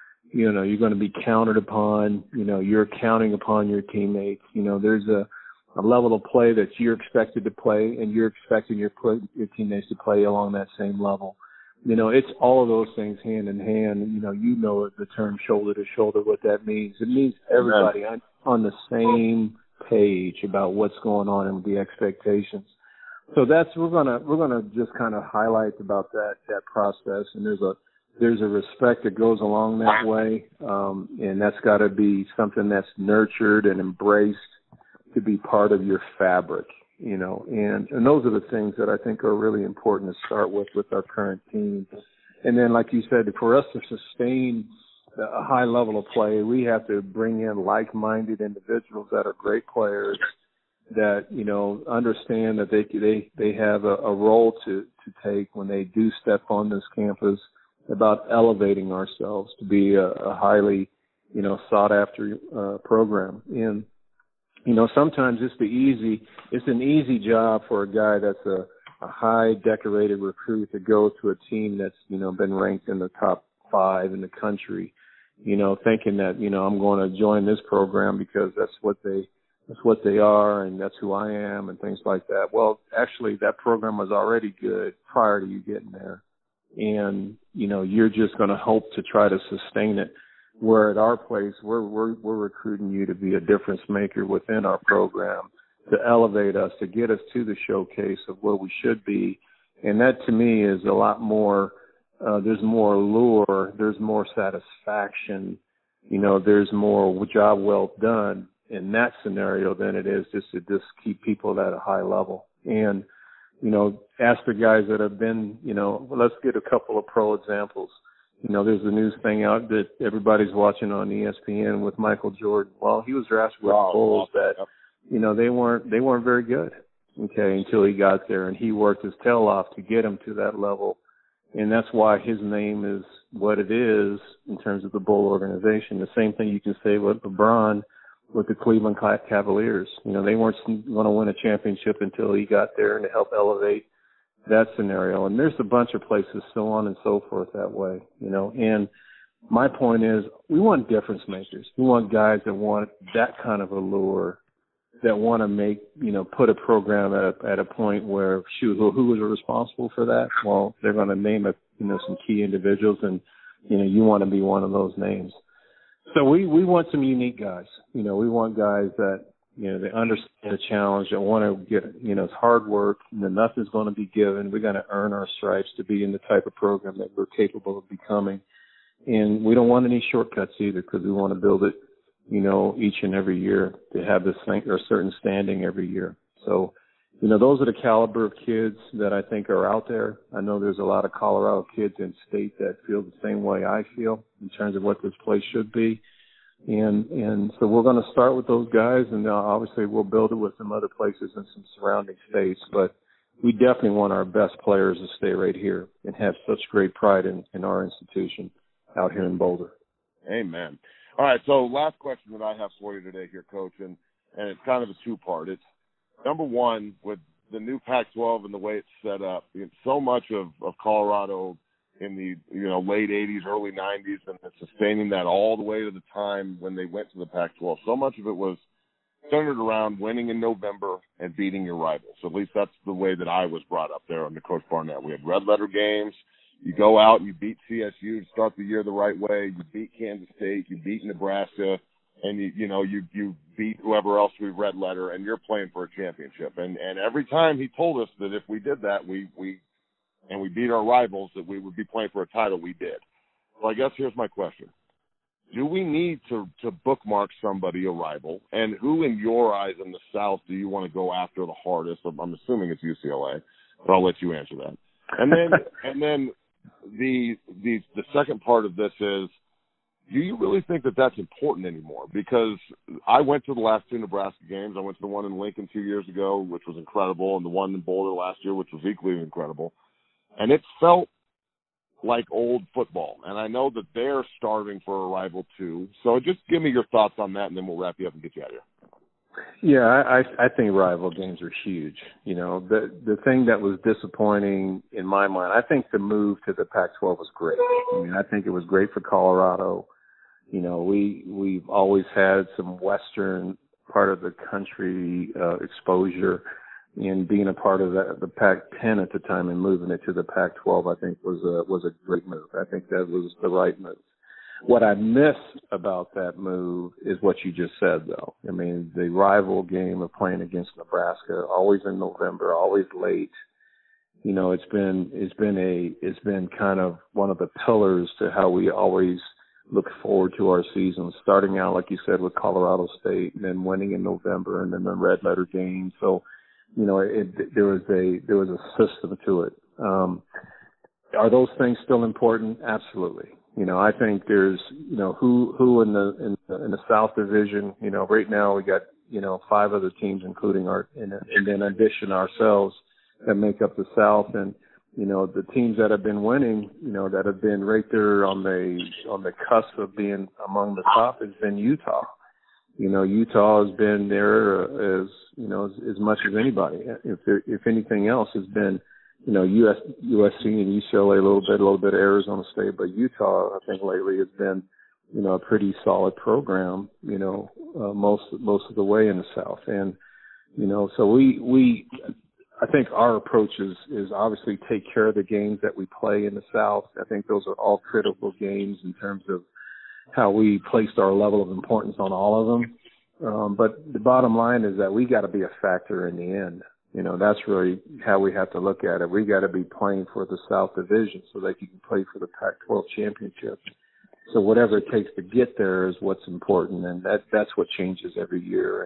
to be counted upon. You're counting upon your teammates. There's a level of play that you're expected to play, and you're expecting your teammates to play along that same level. It's all of those things hand in hand. The term shoulder to shoulder, what that means. It means everybody on the same page about what's going on and the expectations. So we're gonna just kind of highlight about that process, and there's a respect that goes along that way, and that's got to be something that's nurtured and embraced to be part of your fabric, and those are the things that I think are really important to start with our current team. And then, like you said, for us to sustain a high level of play, we have to bring in like-minded individuals that are great players that, understand that they have a role to take when they do step on this campus, about elevating ourselves to be a highly, sought after program. And, sometimes it's an easy job for a guy that's a high decorated recruit to go to a team that's, been ranked in the top 5 in the country, thinking that, I'm going to join this program because that's what they are and that's who I am and things like that. Well, actually that program was already good prior to you getting there. And, you're just going to hope to try to sustain it. Where at our place, we're recruiting you to be a difference maker within our program, to elevate us, to get us to the showcase of where we should be. And that to me is a lot more, there's more allure, there's more satisfaction, there's more job well done in that scenario than it is just to keep people at a high level. And, ask the guys that have been, let's get a couple of pro examples. There's a news thing out that everybody's watching on ESPN with Michael Jordan. Well, he was drafted with the Bulls that, they weren't very good, until he got there, and he worked his tail off to get him to that level. And that's why his name is what it is in terms of the Bull organization. The same thing you can say with LeBron with the Cleveland Cavaliers. They weren't going to win a championship until he got there and to help elevate that scenario. And there's a bunch of places, so on and so forth that way, And my point is, we want difference makers. We want guys that want that kind of allure, that want to make, put a program at a point where, who was responsible for that? Well, they're going to name some key individuals, and you want to be one of those names. So we want some unique guys. We want guys that, they understand the challenge, that want to get, it's hard work, nothing's going to be given. We're going to earn our stripes to be in the type of program that we're capable of becoming. And we don't want any shortcuts either, because we want to build it, each and every year to have this thing or a certain standing every year. So, those are the caliber of kids that I think are out there. I know there's a lot of Colorado kids in state that feel the same way I feel in terms of what this place should be. And so we're going to start with those guys, and obviously we'll build it with some other places and some surrounding states. But we definitely want our best players to stay right here and have such great pride in our institution out here in Boulder.
Amen. All right, so last question that I have for you today here, Coach, and it's kind of a two-part. It's, number one, with the new Pac-12 and the way it's set up, so much of Colorado in the late 80s, early 90s, and sustaining that all the way to the time when they went to the Pac-12. So much of it was centered around winning in November and beating your rivals. At least that's the way that I was brought up there under Coach Barnett. We had red letter games. You go out and you beat CSU to start the year the right way. You beat Kansas State. You beat Nebraska. And you beat whoever else we red letter, and you're playing for a championship. And every time he told us that if we did that, we beat our rivals, that we would be playing for a title, we did. So I guess here's my question. Do we need to bookmark somebody a rival? And who in your eyes in the South do you want to go after the hardest? I'm assuming it's UCLA, but I'll let you answer that. And then the second part of this is, do you really think that that's important anymore? Because I went to the last two Nebraska games. I went to the one in Lincoln 2 years ago, which was incredible, and the one in Boulder last year, which was equally incredible. And it felt like old football. And I know that they're starving for a rival too. So just give me your thoughts on that, and then we'll wrap you up and get you out of here.
Yeah, I think rival games are huge. The thing that was disappointing in my mind, I think the move to the Pac-12 was great. I think it was great for Colorado. We've always had some Western part of the country exposure, and being a part of the Pac-10 at the time and moving it to the Pac-12, I think was a great move. I think that was the right move. What I miss about that move is what you just said, though. The rival game of playing against Nebraska, always in November, always late. It's been kind of one of the pillars to how we always look forward to our season, starting out, like you said, with Colorado State, and then winning in November, and then the red letter game. So, there was a system to it. Are those things still important? Absolutely. I think there's, who in the South Division, right now we got, 5 other teams, including and then in addition ourselves, that make up the South. And, the teams that have been winning, that have been right there on the cusp of being among the top has been Utah. Utah has been there as much as anybody. If anything else has been, USC and UCLA a little bit of Arizona State, but Utah, I think lately has been, a pretty solid program, most of the way in the South. And, so I think our approach is obviously take care of the games that we play in the South. I think those are all critical games in terms of how we placed our level of importance on all of them. But the bottom line is that we got to be a factor in the end. That's really how we have to look at it. We got to be playing for the South Division so that you can play for the Pac-12 championship. So whatever it takes to get there is what's important, and that's what changes every year.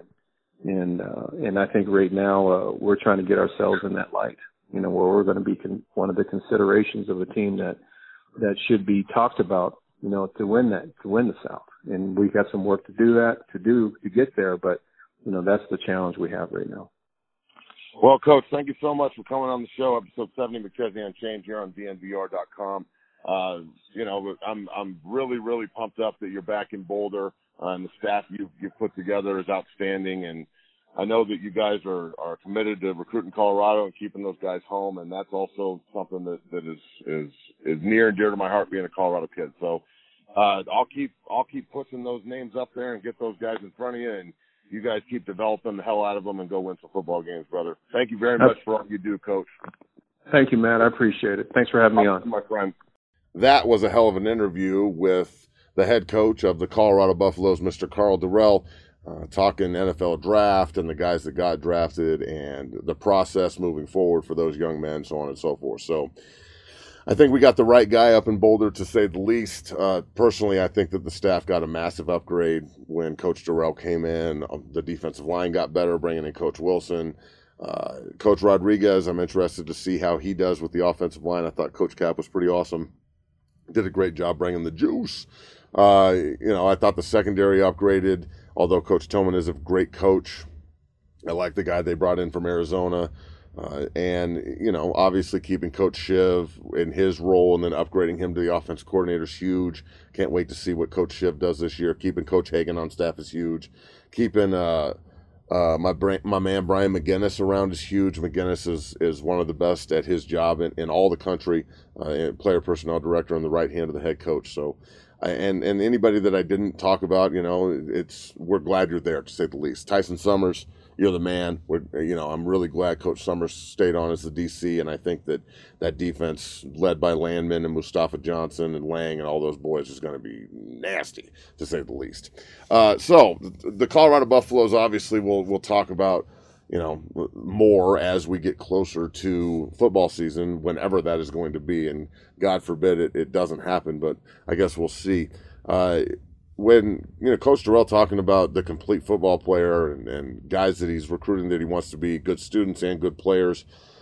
And I think right now we're trying to get ourselves in that light, where we're going to be one of the considerations of a team that should be talked about, to win the South. And we've got some work to get there, but that's the challenge we have right now.
Well, Coach, thank you so much for coming on the show, episode 70, McChesney Unchained, here on DNVR.com. I'm really, really pumped up that you're back in Boulder, and the staff you've put together is outstanding. And I know that you guys are committed to recruiting Colorado and keeping those guys home, and that's also something that is near and dear to my heart, being a Colorado kid. So I'll keep pushing those names up there and get those guys in front of you, and you guys keep developing the hell out of them and go win some football games, brother. Thank you very much for all you do, Coach.
Thank you, Matt. I appreciate it. Thanks for having me on.
My friend.
that was a hell of an interview with the head coach of the Colorado Buffaloes, Mr. Karl Dorrell, talking NFL draft and the guys that got drafted and the process moving forward for those young men, so on and so forth. So I think we got the right guy up in Boulder, to say the least. Personally, I think that the staff got a massive upgrade when Coach Dorrell came in. The defensive line got better, bringing in Coach Wilson. Coach Rodriguez, I'm interested to see how he does with the offensive line. I thought Coach Cap was pretty awesome. Did a great job bringing the juice. I thought the secondary upgraded, although Coach Tillman is a great coach. I like the guy they brought in from Arizona. Obviously keeping Coach Shiv in his role and then upgrading him to the offense coordinator is huge. Can't wait to see what Coach Shiv does this year. Keeping Coach Hagan on staff is huge. Keeping my man Brian McGinnis around is huge. McGinnis is one of the best at his job in all the country, player personnel director on the right hand of the head coach. So, and anybody that I didn't talk about, we're glad you're there, to say the least. Tyson Summers, you're the man. I'm really glad Coach Summers stayed on as the DC, and I think that defense led by Landman and Mustafa Johnson and Lang and all those boys is going to be nasty, to say the least. So the Colorado Buffaloes, obviously, we'll talk about more as we get closer to football season, whenever that is going to be, and God forbid it doesn't happen, but I guess we'll see. When Coach Dorrell talking about the complete football player and guys that he's recruiting that he wants to be good students and good players,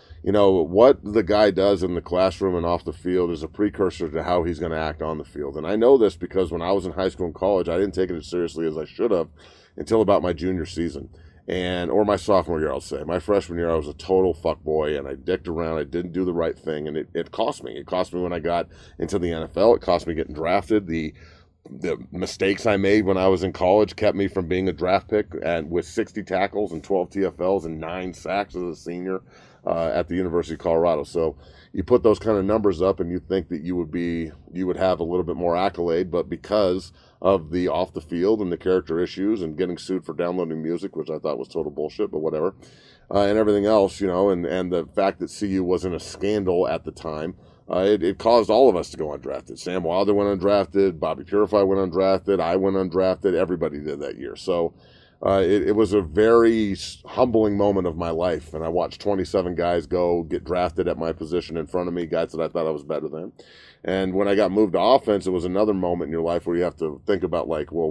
what the guy does in the classroom and off the field is a precursor to how he's going to act on the field. And I know this because when I was in high school and college, I didn't take it as seriously as I should have until about my junior season. Or my sophomore year, I'll say. My freshman year, I was a total fuckboy, and I dicked around. I didn't do the right thing, and it cost me. It cost me when I got into the NFL. It cost me getting drafted. The mistakes I made when I was in college kept me from being a draft pick, and with 60 tackles and 12 TFLs and 9 sacks as a senior at the University of Colorado. So you put those kind of numbers up, and you think that you would have a little bit more accolade, but because of the off the field and the character issues and getting sued for downloading music, which I thought was total bullshit, but whatever, and everything else, and the fact that CU was in a scandal at the time, it caused all of us to go undrafted. Sam Wilder went undrafted, Bobby Purify went undrafted, I went undrafted, everybody did that year. So it was a very humbling moment of my life, and I watched 27 guys get drafted at my position in front of me, guys that I thought I was better than. And when I got moved to offense, it was another moment in your life where you have to think about, like, well,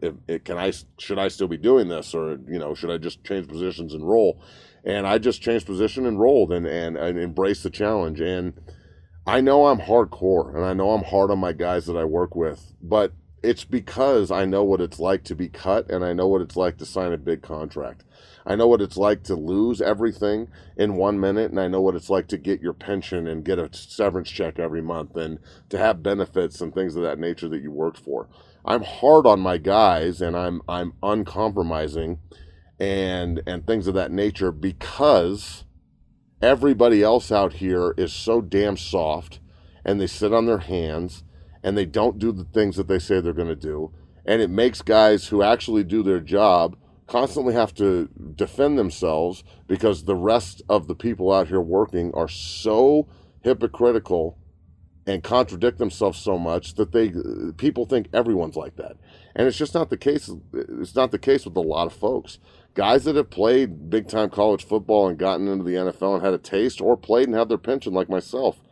should I still be doing this, or should I just change positions and roll? And I just changed position and rolled and embraced the challenge. And I know I'm hardcore, and I know I'm hard on my guys that I work with, but it's because I know what it's like to be cut, and I know what it's like to sign a big contract. I know what it's like to lose everything in 1 minute, and I know what it's like to get your pension and get a severance check every month and to have benefits and things of that nature that you worked for. I'm hard on my guys, and I'm uncompromising and things of that nature because everybody else out here is so damn soft, and they sit on their hands, and they don't do the things that they say they're going to do, and it makes guys who actually do their job constantly have to defend themselves because the rest of the people out here working are so hypocritical and contradict themselves so much that people think everyone's like that. And it's just not the case. It's not the case with a lot of folks. Guys that have played big-time college football and gotten into the NFL and had a taste, or played and had their pension like myself,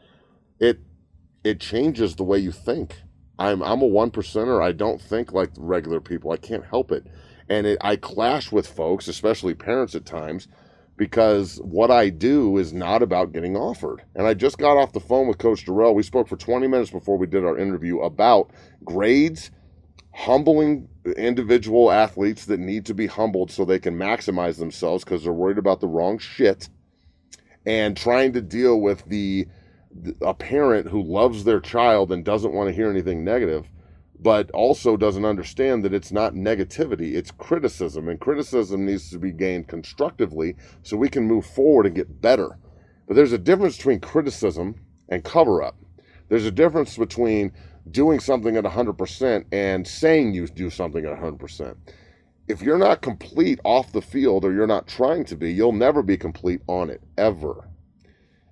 it changes the way you think. I'm a 1%er. I don't think like regular people. I can't help it. And I clash with folks, especially parents at times, because what I do is not about getting offered. And I just got off the phone with Coach Dorrell. We spoke for 20 minutes before we did our interview about grades, humbling individual athletes that need to be humbled so they can maximize themselves because they're worried about the wrong shit, and trying to deal with a parent who loves their child and doesn't want to hear anything negative, but also doesn't understand that it's not negativity, it's criticism. And criticism needs to be gained constructively so we can move forward and get better. But there's a difference between criticism and cover-up. There's a difference between doing something at 100% and saying you do something at 100%. If you're not complete off the field, or you're not trying to be, you'll never be complete on it, ever.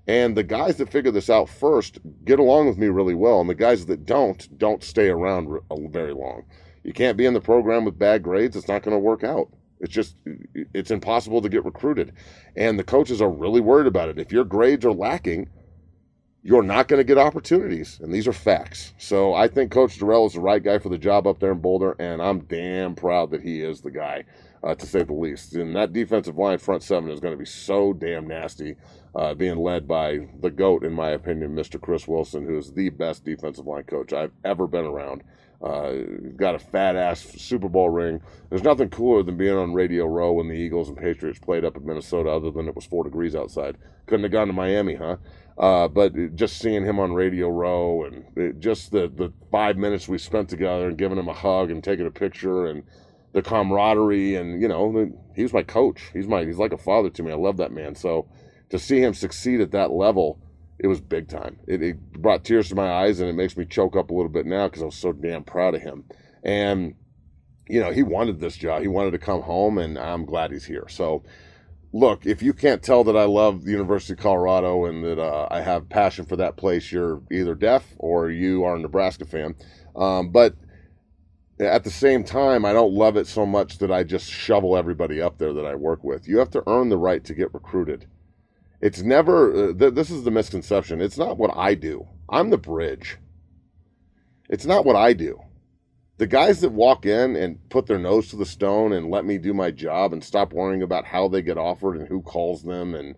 And the guys that figure this out first get along with me really well. And the guys that don't stay around very long. You can't be in the program with bad grades. It's not going to work out. It's impossible to get recruited. And the coaches are really worried about it. If your grades are lacking, you're not going to get opportunities. And these are facts. So I think Coach Dorrell is the right guy for the job up there in Boulder. And I'm damn proud that he is the guy, to say the least. And that defensive line front seven is going to be so damn nasty, being led by the GOAT, in my opinion, Mr. Chris Wilson, who is the best defensive line coach I've ever been around. Got a fat-ass Super Bowl ring. There's nothing cooler than being on Radio Row when the Eagles and Patriots played up in Minnesota, other than it was 4 degrees outside. Couldn't have gone to Miami, huh? But just seeing him on Radio Row and just the 5 minutes we spent together and giving him a hug and taking a picture and the camaraderie, and, he was my coach. He's like a father to me. I love that man. So to see him succeed at that level, it was big time. It brought tears to my eyes, and it makes me choke up a little bit now because I was so damn proud of him. And, he wanted this job. He wanted to come home, and I'm glad he's here. So, look, if you can't tell that I love the University of Colorado and that I have passion for that place, you're either deaf or you are a Nebraska fan. But at the same time, I don't love it so much that I just shovel everybody up there that I work with. You have to earn the right to get recruited. It's never, this is the misconception. It's not what I do. I'm the bridge. It's not what I do. The guys that walk in and put their nose to the stone and let me do my job and stop worrying about how they get offered and who calls them and,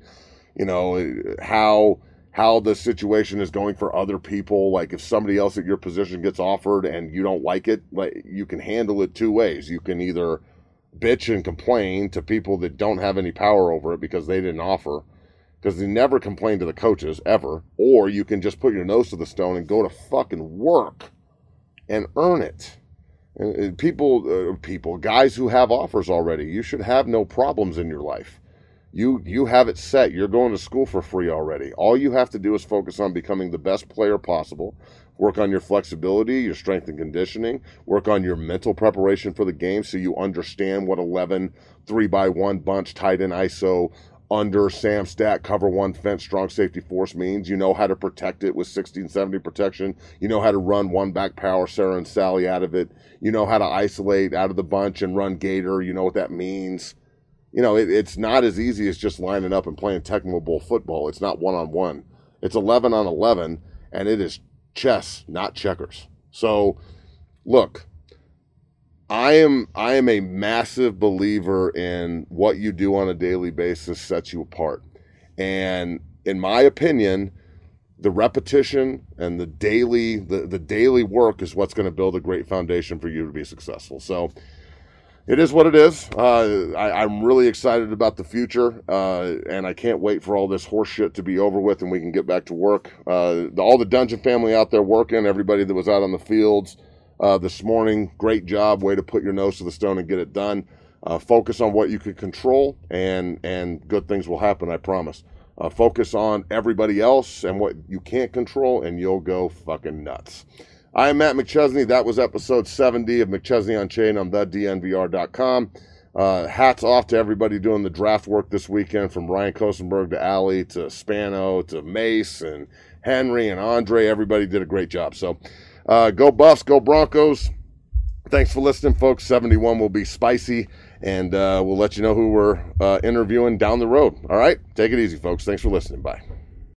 how the situation is going for other people. Like if somebody else at your position gets offered and you don't like it, like you can handle it 2 ways. You can either bitch and complain to people that don't have any power over it because they didn't offer, because they never complain to the coaches, ever. Or you can just put your nose to the stone and go to fucking work and earn it. And guys who have offers already, you should have no problems in your life. You have it set. You're going to school for free already. All you have to do is focus on becoming the best player possible. Work on your flexibility, your strength and conditioning. Work on your mental preparation for the game so you understand what 11 3x1 bunch tight end ISO under Sam Stack, cover one fence, strong safety force means. You know how to protect it with 1670 protection. You know how to run one back power, Sarah and Sally, out of it. You know how to isolate out of the bunch and run gator. You know what that means. It's not as easy as just lining up and playing Tecmo Bowl football. It's not one-on-one. It's 11 on 11, and it is chess, not checkers. So, look, I am a massive believer in what you do on a daily basis sets you apart. And in my opinion, the repetition and the daily work is what's going to build a great foundation for you to be successful. So it is what it is. I'm really excited about the future, and I can't wait for all this horse shit to be over with and we can get back to work. All the Dungeon family out there working, everybody that was out on the fields this morning, great job. Way to put your nose to the stone and get it done. Focus on what you can control, and good things will happen, I promise. Focus on everybody else and what you can't control, and you'll go fucking nuts. I am Matt McChesney. That was episode 70 of McChesney Unchained on thednvr.com. Hats off to everybody doing the draft work this weekend, from Ryan Kosenberg to Allie to Spano to Mace and Henry and Andre. Everybody did a great job. So go Buffs, go Broncos. Thanks for listening, folks. 71 will be spicy, and we'll let you know who we're interviewing down the road. All right? Take it easy, folks. Thanks for listening. Bye.